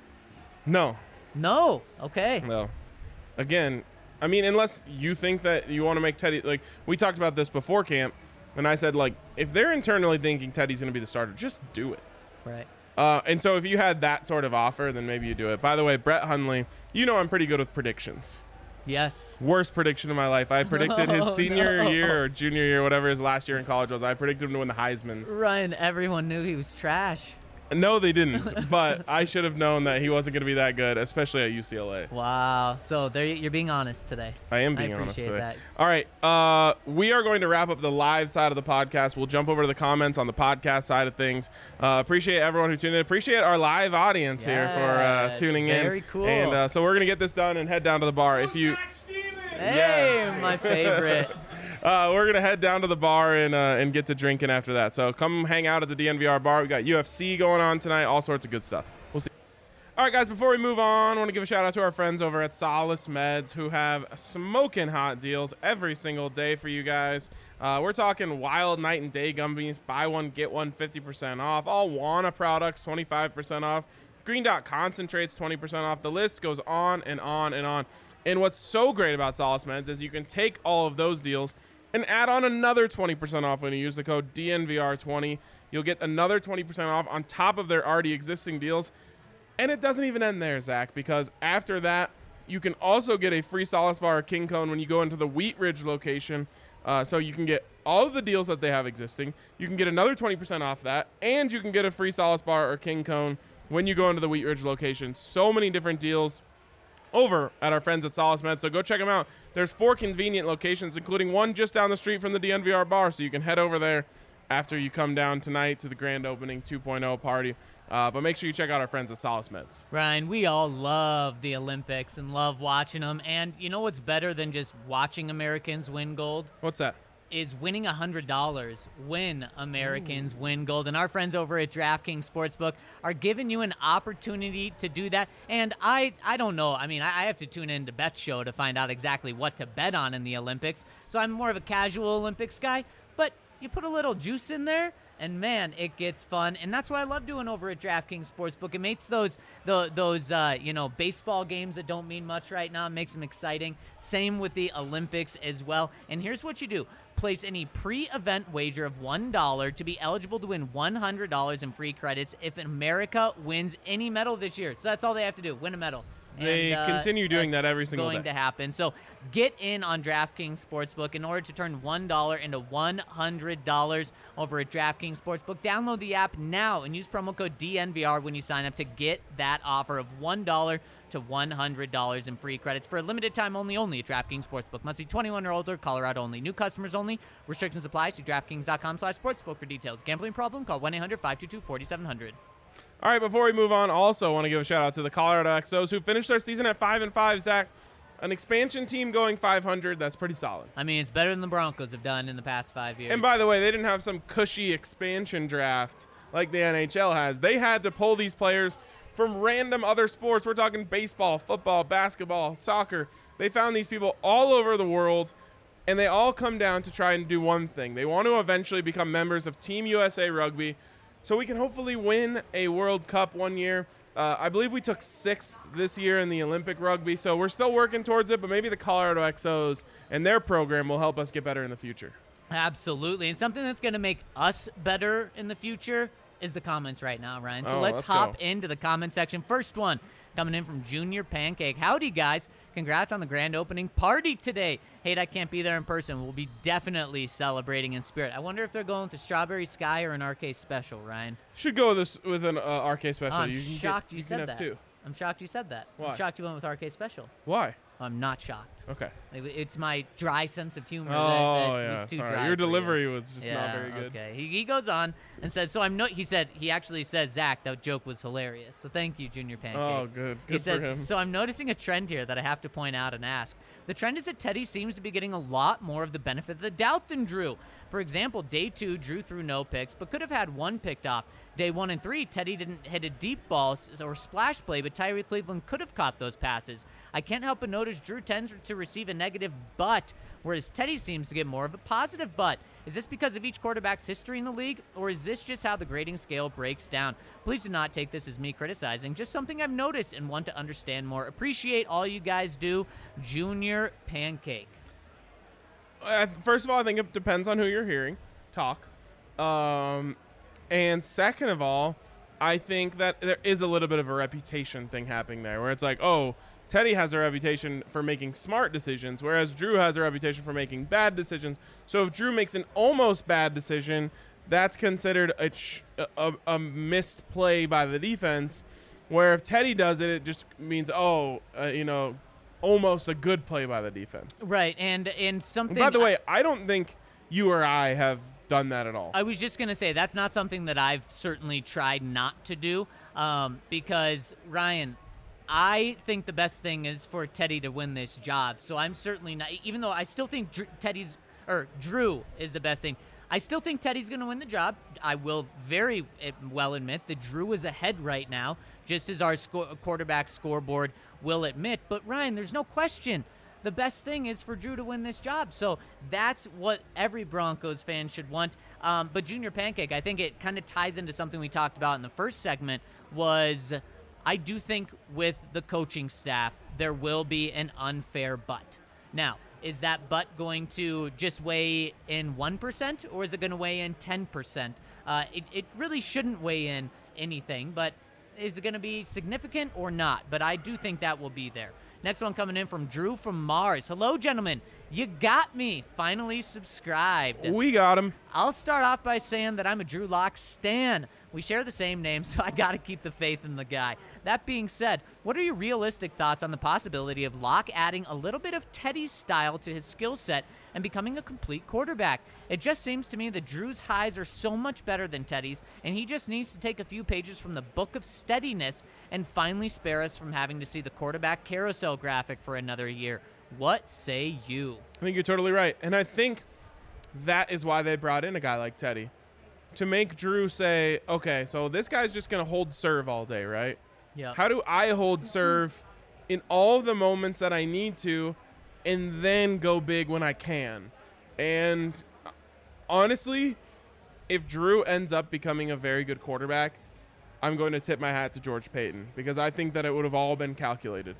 No, No. Okay. no. Again, I mean, unless you think that you want to make Teddy, like we talked about this before camp, and I said, like, if they're internally thinking Teddy's going to be the starter, just do it. Right. Uh, and so if you had that sort of offer, then maybe you do it. By the way, Brett Hundley, you know I'm pretty good with predictions. Yes. Worst prediction of my life. I predicted Oh, his senior no. year or junior year, whatever his last year in college was. I predicted him to win the Heisman. Ryan, everyone knew he was trash. No, they didn't. But I should have known that he wasn't going to be that good, especially at U C L A. Wow. So there, you're being honest today. I am I being honest appreciate today. that. All right. Uh, we are going to wrap up the live side of the podcast. We'll jump over to the comments on the podcast side of things. Uh, appreciate everyone who tuned in. Appreciate our live audience here for uh, Yes, tuning in. very cool. And uh, so we're going to get this done and head down to the bar. If you, Hey, Yes. my favorite. uh, we're going to head down to the bar and uh, and get to drinking after that. So come hang out at the D N V R bar. We got U F C going on tonight. All sorts of good stuff. We'll see. All right, guys, before we move on, I want to give a shout out to our friends over at Solace Meds who have smoking hot deals every single day for you guys. Uh, we're talking wild night and day gummies, buy one, get one, fifty percent off. All Wana products, twenty-five percent off. Green Dot concentrates, twenty percent off. The list goes on and on and on. And what's so great about Solace Meds is you can take all of those deals and add on another twenty percent off when you use the code D N V R twenty. You'll get another twenty percent off on top of their already existing deals. And it doesn't even end there, Zach, because after that, you can also get a free Solace Bar or King Cone when you go into the Wheat Ridge location. Uh, so you can get all of the deals that they have existing. You can get another twenty percent off that, and you can get a free Solace Bar or King Cone when you go into the Wheat Ridge location. So many different deals over at our friends at Solace Med. So go check them out. There's four convenient locations, including one just down the street from the D N V R bar. So you can head over there after you come down tonight to the grand opening two point oh party. Uh, but make sure you check out our friends at Solace Meds. Ryan, we all love the Olympics and love watching them. And you know what's better than just watching Americans win gold? What's that? Is winning one hundred dollars when Americans win gold. And our friends over at DraftKings Sportsbook are giving you an opportunity to do that. And I I don't know. I mean, I, I have to tune into Bet Show to find out exactly what to bet on in the Olympics. So I'm more of a casual Olympics guy. But you put a little juice in there, and man, it gets fun. And that's what I love doing over at DraftKings Sportsbook. It makes those the, those uh, you know baseball games that don't mean much right now, it makes them exciting. Same with the Olympics as well. And here's what you do. Place any pre-event wager of one dollar to be eligible to win one hundred dollars in free credits if America wins any medal this year. So that's all they have to do, win a medal. They And, uh, continue doing that's that every single going day. to happen. So get in on DraftKings Sportsbook in order to turn one dollar into one hundred dollars over at DraftKings Sportsbook. Download the app now and use promo code D N V R when you sign up to get that offer of one dollar to one hundred dollars in free credits for a limited time only, only at DraftKings Sportsbook. Must be twenty-one or older, Colorado only. New customers only. Restrictions apply. See DraftKings.com slash sportsbook for details. Gambling problem? Call one eight hundred five two two four seven zero zero. All right, before we move on, also want to give a shout out to the Colorado X Os who finished their season at five and five. Zach, an expansion team going five hundred, that's pretty solid. I mean, it's better than the Broncos have done in the past five years. And by the way, they didn't have some cushy expansion draft like the N H L has. They had to pull these players from random other sports. We're talking baseball, football, basketball, soccer. They found these people all over the world, and they all come down to try and do one thing. They want to eventually become members of Team U S A Rugby so we can hopefully win a World Cup one year. Uh, I believe we took sixth this year in the Olympic rugby, so we're still working towards it, but maybe the Colorado X Os and their program will help us get better in the future. Absolutely. And something that's going to make us better in the future is the comments right now, Ryan. So Oh, let's, let's hop go. into the comment section. First one coming in from Junior Pancake. Howdy, guys. Congrats on the grand opening party today. Hate I can't be there in person. We'll be definitely celebrating in spirit. I wonder if they're going with the Strawberry Sky or an R K special, Ryan. Should go with this with an uh, R K special. Oh, I'm you can shocked get, you, you said can that. have two. I'm shocked you said that. Why? I'm shocked you went with R K special. Why? I'm not shocked. Okay. It- It's my dry sense of humor that, Oh, that yeah. was too Sorry. dry Your for you. delivery was just yeah, not very good. Okay. He, he goes on and says, so I'm no, he said, he actually says, Zach, that joke was hilarious. So thank you, Junior Pancake. Oh, good. He Good for says, him. so I'm noticing a trend here that I have to point out and ask. The trend is that Teddy seems to be getting a lot more of the benefit of the doubt than Drew. For example, day two, Drew threw no picks, but could have had one picked off. Day one and three, Teddy didn't hit a deep ball s- or splash play, but Tyree Cleveland could have caught those passes. I can't help but notice Drew tends to receive a negative but, whereas Teddy seems to get more of a positive but. Is this because of each quarterback's history in the league, or is this just how the grading scale breaks down? Please do not take this as me criticizing, just something I've noticed and want to understand more. Appreciate all you guys do, Junior Pancake. Uh, first of all, I think it depends on who you're hearing talk. Um, and second of all, I think that there is a little bit of a reputation thing happening there where it's like, oh, Teddy has a reputation for making smart decisions, whereas Drew has a reputation for making bad decisions. So if Drew makes an almost bad decision, that's considered a, ch- a, a missed play by the defense, where if Teddy does it, it just means, oh, uh, you know, almost a good play by the defense. Right, and and something. By the way, I don't think you or I have done that at all. I was just gonna say that's not something that I've certainly tried not to do, um, because Ryan, I think the best thing is for Teddy to win this job. So I'm certainly not, even though I still think Dr- Teddy's or Drew is the best thing. I still think Teddy's going to win the job. I will very well admit that Drew is ahead right now, just as our sco- quarterback scoreboard will admit. But Ryan, there's no question. The best thing is for Drew to win this job. So that's what every Broncos fan should want. Um, but Junior Pancake, I think it kind of ties into something we talked about in the first segment was I do think with the coaching staff, there will be an unfair but. Now, is that but going to just weigh in one percent or is it going to weigh in ten percent? Uh, it, it really shouldn't weigh in anything, but is it going to be significant or not? But I do think that will be there. Next one coming in from Drew from Mars. Hello, gentlemen. You got me. Finally subscribed. We got him. I'll start off by saying that I'm a Drew Lock stan. We share the same name, so I got to keep the faith in the guy. That being said, what are your realistic thoughts on the possibility of Locke adding a little bit of Teddy's style to his skill set and becoming a complete quarterback? It just seems to me that Drew's highs are so much better than Teddy's, and he just needs to take a few pages from the Book of Steadiness and finally spare us from having to see the quarterback carousel graphic for another year. What say you? I think you're totally right. And I think that is why they brought in a guy like Teddy. To make Drew say, okay, so this guy's just going to hold serve all day, right? Yeah. How do I hold serve in all the moments that I need to and then go big when I can? And honestly, if Drew ends up becoming a very good quarterback, I'm going to tip my hat to George Payton because I think that it would have all been calculated.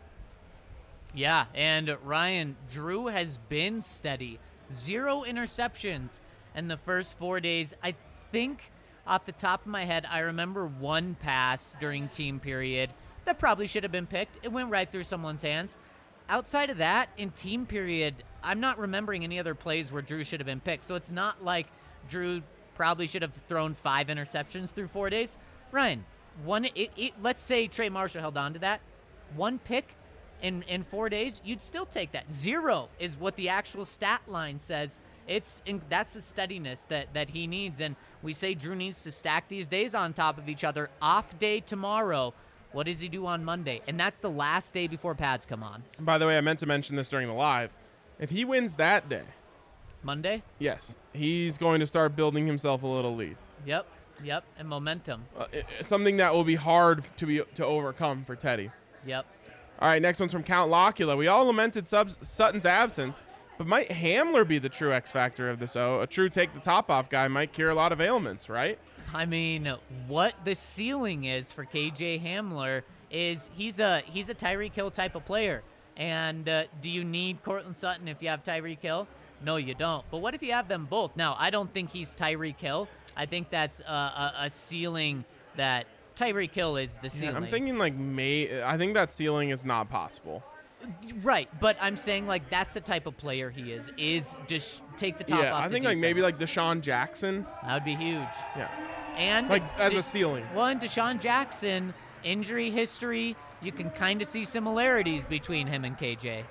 Yeah, and Ryan, Drew has been steady. Zero interceptions in the first four days. I think off the top of my head, I remember one pass during team period that probably should have been picked. It went right through someone's hands. Outside of that, in team period, I'm not remembering any other plays where Drew should have been picked. So it's not like Drew probably should have thrown five interceptions through four days. Ryan, one. It, it, let's say Trey Marshall held on to that. One pick in, in four days, you'd still take that. Zero is what the actual stat line says. It's in, that's the steadiness that, that he needs. And we say Drew needs to stack these days on top of each other. Off day tomorrow. What does he do on Monday? And that's the last day before pads come on. By the way, I meant to mention this during the live. If he wins that day, Monday? yes, he's going to start building himself a little lead. Yep. Yep, and momentum. Uh, i- i- something that will be hard to be to overcome for Teddy. Yep. All right, next one's from Count Locula. We all lamented Subs- Sutton's absence, but might Hamler be the true X factor of this? Oh, a true take the top off guy might cure a lot of ailments, right? I mean, what the ceiling is for K J Hamler is he's a he's a Tyreek Hill type of player. And uh, do you need Cortland Sutton if you have Tyreek Hill? No, you don't. But what if you have them both? Now, I don't think he's Tyreek Hill. I think that's a, a, a ceiling that Tyreek Hill is the Yeah, ceiling. I'm thinking like May. I think that ceiling is not possible. Right, but I'm saying like that's the type of player he is. Is just take the top Yeah, off I the think like maybe like defense. Deshaun Jackson. That would be huge. Yeah, And like as a Des- ceiling. Well, and Deshaun Jackson, injury history, you can kind of see similarities between him and K J.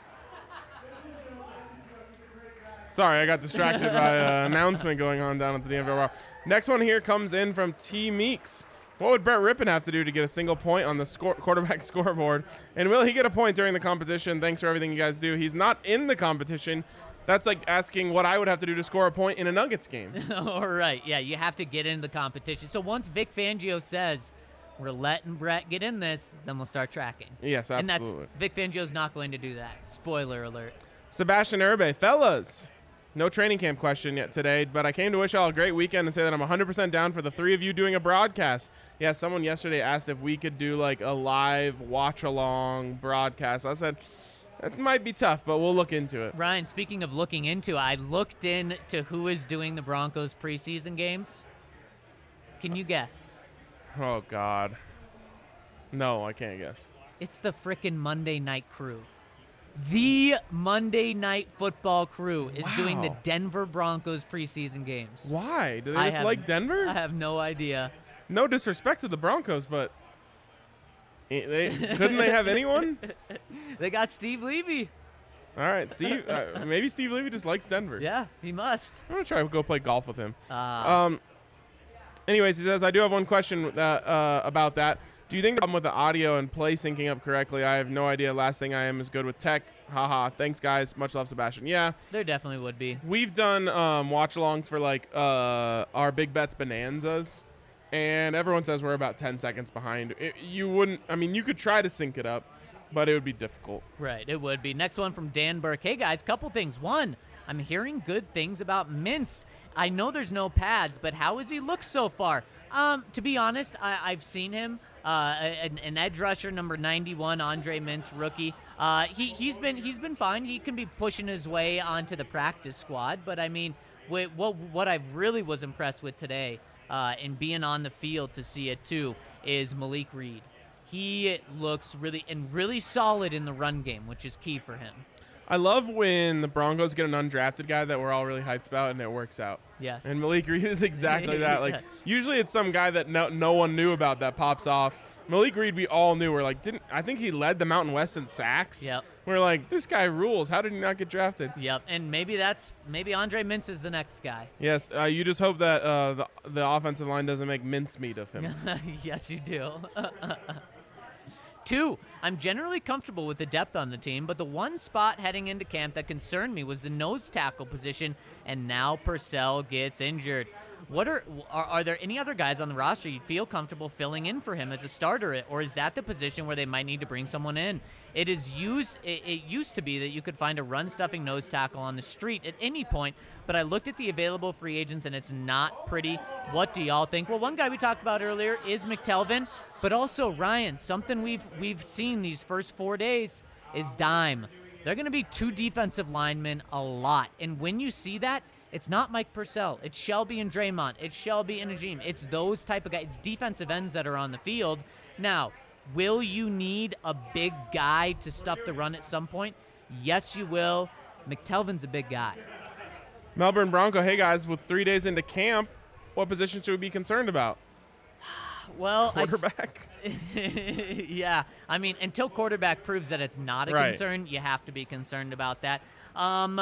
Sorry, I got distracted by an announcement going on down at the D M V R. Next one here comes in from T Meeks. What would Brett Rippon have to do to get a single point on the score, quarterback scoreboard? And will he get a point during the competition? Thanks for everything you guys do. He's not in the competition. That's like asking what I would have to do to score a point in a Nuggets game. All right, yeah, you have to get into the competition. So once Vic Fangio says we're letting Brett get in this, then we'll start tracking. Yes, And absolutely. that's Vic Fangio's not going to do that. Spoiler alert. Sebastian Urbe, fellas. No training camp question yet today, but I came to wish y'all a great weekend and say that I'm one hundred percent down for the three of you doing a broadcast. Yeah, someone yesterday asked if we could do like a live watch-along broadcast. I said, that might be tough, but we'll look into it. Ryan, speaking of looking into, I looked into who is doing the Broncos preseason games. Can you guess? Oh, God. No, I can't guess. It's the frickin' Monday Night Crew. The Monday Night Football Crew is doing the Wow. Denver Broncos preseason games. Why? Do they I just have- like Denver? I have no idea. No disrespect to the Broncos, but eh, they couldn't they have anyone? They got Steve Levy. All right, Steve. Uh, maybe Steve Levy just likes Denver. Yeah, he must. I'm gonna try to go play golf with him. Uh, Um. Anyways, he says I do have one question that, uh, about that. Do you think the problem with the audio and play syncing up correctly? I have no idea. Last thing I am is good with tech. Haha. Thanks, guys. Much love, Sebastian. Yeah, there definitely would be. we've done um, watch-alongs for like uh, our Big Bets Bonanzas, and everyone says we're about ten seconds behind. It, you wouldn't. I mean, you could try to sync it up, but it would be difficult. Right, it would be. Next one from Dan Burke. Hey, guys, couple things. One, I'm hearing good things about Mintz. I know there's no pads, but how has he looked so far? Um, to be honest, I, I've seen him. Uh, an, an edge rusher, number ninety-one, Andre Mintz, rookie. Uh, he he's been he's been fine. He can be pushing his way onto the practice squad. But I mean, what what, what I really was impressed with today, uh, and being on the field to see it too, is Malik Reed. He looks really and really solid in the run game, which is key for him. I love when the Broncos get an undrafted guy that we're all really hyped about and it works out. Yes. And Malik Reed is exactly that. Like Yes. usually it's some guy that no, no one knew about that pops off. Malik Reed, we all knew. We're like, didn't I think he led the Mountain West in sacks? Yep. We're like, this guy rules. How did he not get drafted? Yep, and maybe that's maybe Andre Mintz is the next guy. Yes. Uh, you just hope that uh, the the offensive line doesn't make mincemeat of him. Yes, you do. Two, I'm generally comfortable with the depth on the team, but the one spot heading into camp that concerned me was the nose tackle position, and now Purcell gets injured. What are, are are there any other guys on the roster you'd feel comfortable filling in for him as a starter, or is that the position where they might need to bring someone in? It is used. It, it used to be that you could find a run-stuffing nose tackle on the street at any point, but I looked at the available free agents and it's not pretty. What do y'all think? Well, one guy we talked about earlier is McTelvin, but also Ryan. Something we've we've seen these first four days is dime. They're going to be two defensive linemen a lot, and when you see that, it's not Mike Purcell. It's Shelby and Draymond. It's Shelby and Najim. It's those type of guys. It's defensive ends that are on the field. Now, will you need a big guy to stuff the run at some point? Yes, you will. McTelvin's a big guy. Melbourne Bronco, hey guys, with three days into camp, what position should we be concerned about? Well, I s- Quarterback? yeah. I mean, until quarterback proves that it's not a Right. concern, you have to be concerned about that. Um,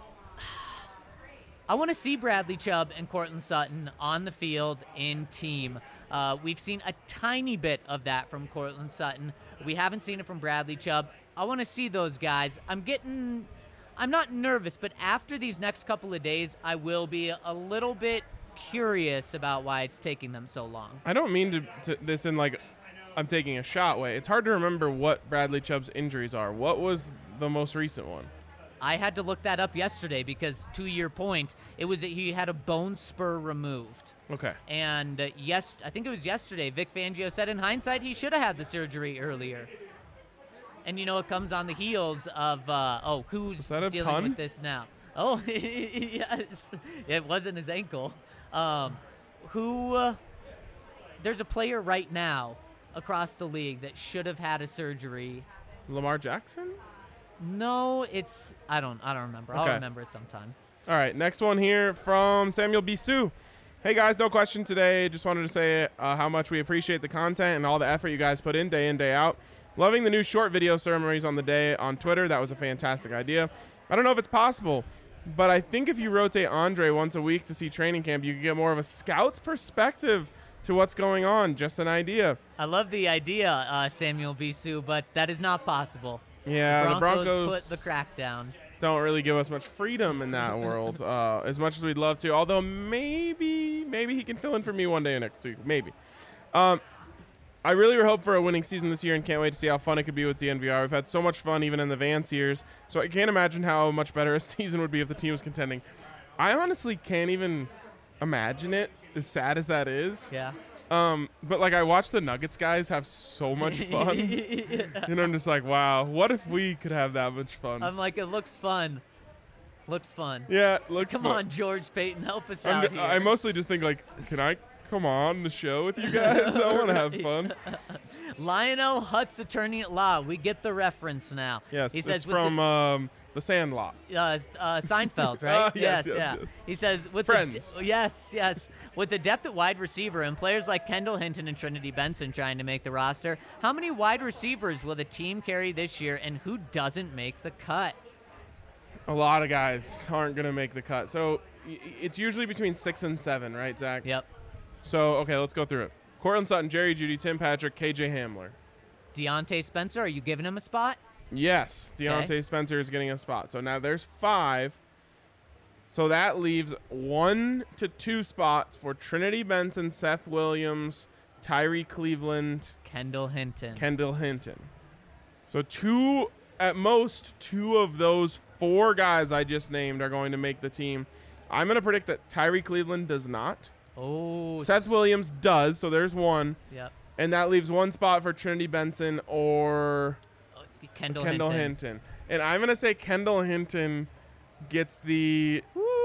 I want to see Bradley Chubb and Cortland Sutton on the field in team. Uh, we've seen a tiny bit of that from Cortland Sutton. We haven't seen it from Bradley Chubb. I want to see those guys. I'm getting, I'm not nervous, but after these next couple of days, I will be a little bit curious about why it's taking them so long. I don't mean to, to this in like I'm taking a shot way. It's hard to remember what Bradley Chubb's injuries are. What was the most recent one? I had to look that up yesterday because, to your point, it was that he had a bone spur removed. Okay. And uh, yes, I think it was yesterday, Vic Fangio said in hindsight he should have had the surgery earlier. And, you know, it comes on the heels of, uh, oh, who's Is that a dealing pun? with this now? Oh, yes. It wasn't his ankle. Um, who, uh, there's a player right now across the league that should have had a surgery. Lamar Jackson? No, it's, I don't, I don't remember. I'll Okay. remember it sometime. All right, next one here from Samuel Bisou. Hey guys, no question today. Just wanted to say uh, how much we appreciate the content and all the effort you guys put in day in, day out. Loving the new short video ceremonies on the day on Twitter. That was a fantastic idea. I don't know if it's possible, but I think if you rotate Andre once a week to see training camp, you can get more of a scout's perspective to what's going on. Just an idea. I love the idea, uh, Samuel Bisou, but that is not possible. Yeah, the Broncos, the Broncos put the crack down. don't really give us much freedom in that world, uh, as much as we'd love to. Although maybe, maybe he can fill in for me one day next week. Maybe. Um, I really hope for a winning season this year and can't wait to see how fun it could be with D N V R. We've had so much fun even in the Vance years, so I can't imagine how much better a season would be if the team was contending. I honestly can't even imagine it, as sad as that is. Yeah. Um, but like I watch the Nuggets guys have so much fun, and I'm just like, wow, what if we could have that much fun? I'm like, it looks fun. Looks fun. Yeah, it looks Come fun. on, George Payton, help us I'm out d- here. I mostly just think like, can I come on the show with you guys? I want to have fun. Lionel Hutz, attorney at law. We get the reference now. Yes, he it's says with from um, The Sandlot. the, uh, uh, Seinfeld, right? Uh, yes, yes, yeah. yes. He says with Friends. The d- yes, yes. With the depth at wide receiver and players like Kendall Hinton and Trinity Benson trying to make the roster, how many wide receivers will the team carry this year, and who doesn't make the cut? A lot of guys aren't going to make the cut. So y- it's usually between six and seven, right, Zach? Yep. So, okay, let's go through it. Cortland Sutton, Jerry Jeudy, Tim Patrick, K J Hamler. Deontay Spencer, are you giving him a spot? Yes, Deontay Okay. Spencer is getting a spot. So now there's five. So that leaves one to two spots for Trinity Benson, Seth Williams, Tyree Cleveland, Kendall Hinton. Kendall Hinton. So two, at most, two of those four guys I just named are going to make the team. I'm going to predict that Tyree Cleveland does not. oh, Seth Williams does, so there's one. Yep. And that leaves one spot for Trinity Benson or Uh, Kendall, Kendall Hinton. Hinton. And I'm going to say Kendall Hinton gets the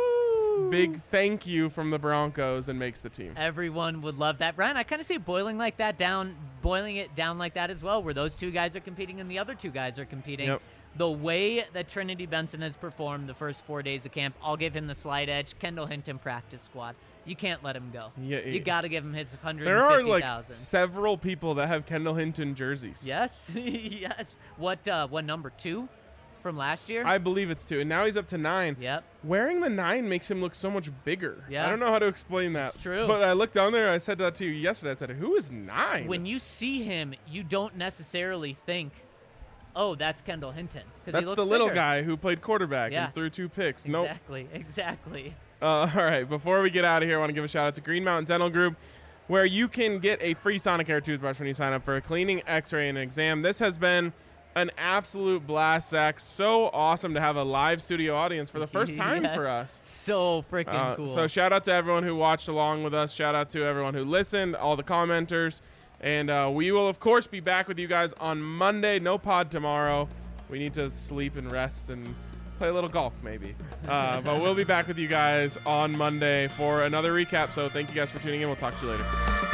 big thank you from the Broncos and makes the team. Everyone would love that. Ryan, I kind of see boiling like that down, boiling it down like that as well, where those two guys are competing and the other two guys are competing. Yep. The way that Trinity Benson has performed the first four days of camp, I'll give him the slight edge. Kendall Hinton practice squad. You can't let him go. Yeah, You yeah. got to give him his one hundred There are fifty like thousand. several people that have Kendall Hinton jerseys. Yes, yes. What? Uh, what number two from last year? I believe it's two. And now he's up to nine. Yep. Wearing the nine makes him look so much bigger. Yeah. I don't know how to explain that. It's true. But I looked down there. I said that to you yesterday. I said, who is nine? When you see him, you don't necessarily think, "Oh, that's Kendall Hinton," because That's he looks the little bigger. guy who played quarterback Yeah. and threw two picks. Nope. Exactly. Exactly. Uh, all right, before we get out of here, I want to give a shout out to Green Mountain Dental Group, where you can get a free Sonicare toothbrush when you sign up for a cleaning, x-ray, and an exam. This has been an absolute blast, Zach. So awesome to have a live studio audience for the first time Yes. for us. So freaking Uh, cool. So shout out to everyone who watched along with us. Shout out to everyone who listened, all the commenters. And uh, we will, of course, be back with you guys on Monday. No pod tomorrow. We need to sleep and rest and play a little golf, maybe. Uh, but we'll be back with you guys on Monday for another recap. So thank you guys for tuning in. We'll talk to you later.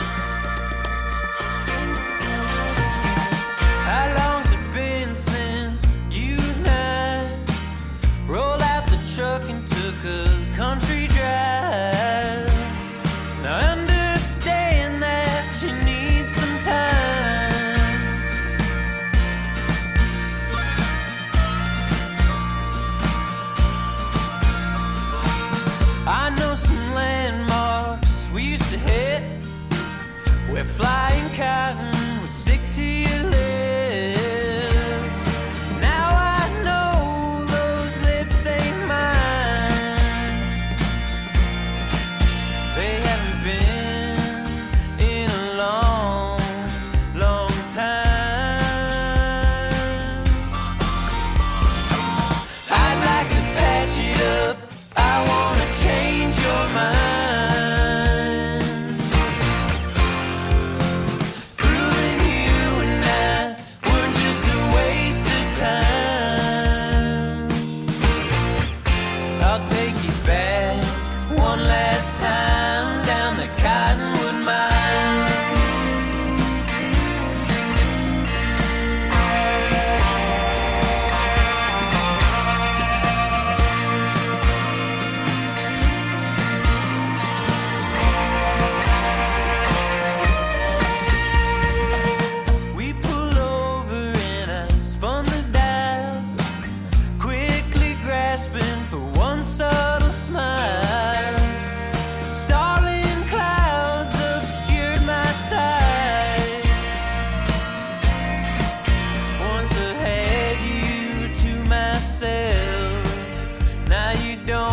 How long's it been since you and I rolled out the truck and took a country drive? Now understand that you need some time. I know some landmarks we used to hit where flying cotton would stick to your lips. Now I know those lips ain't mine. They myself. Now you don't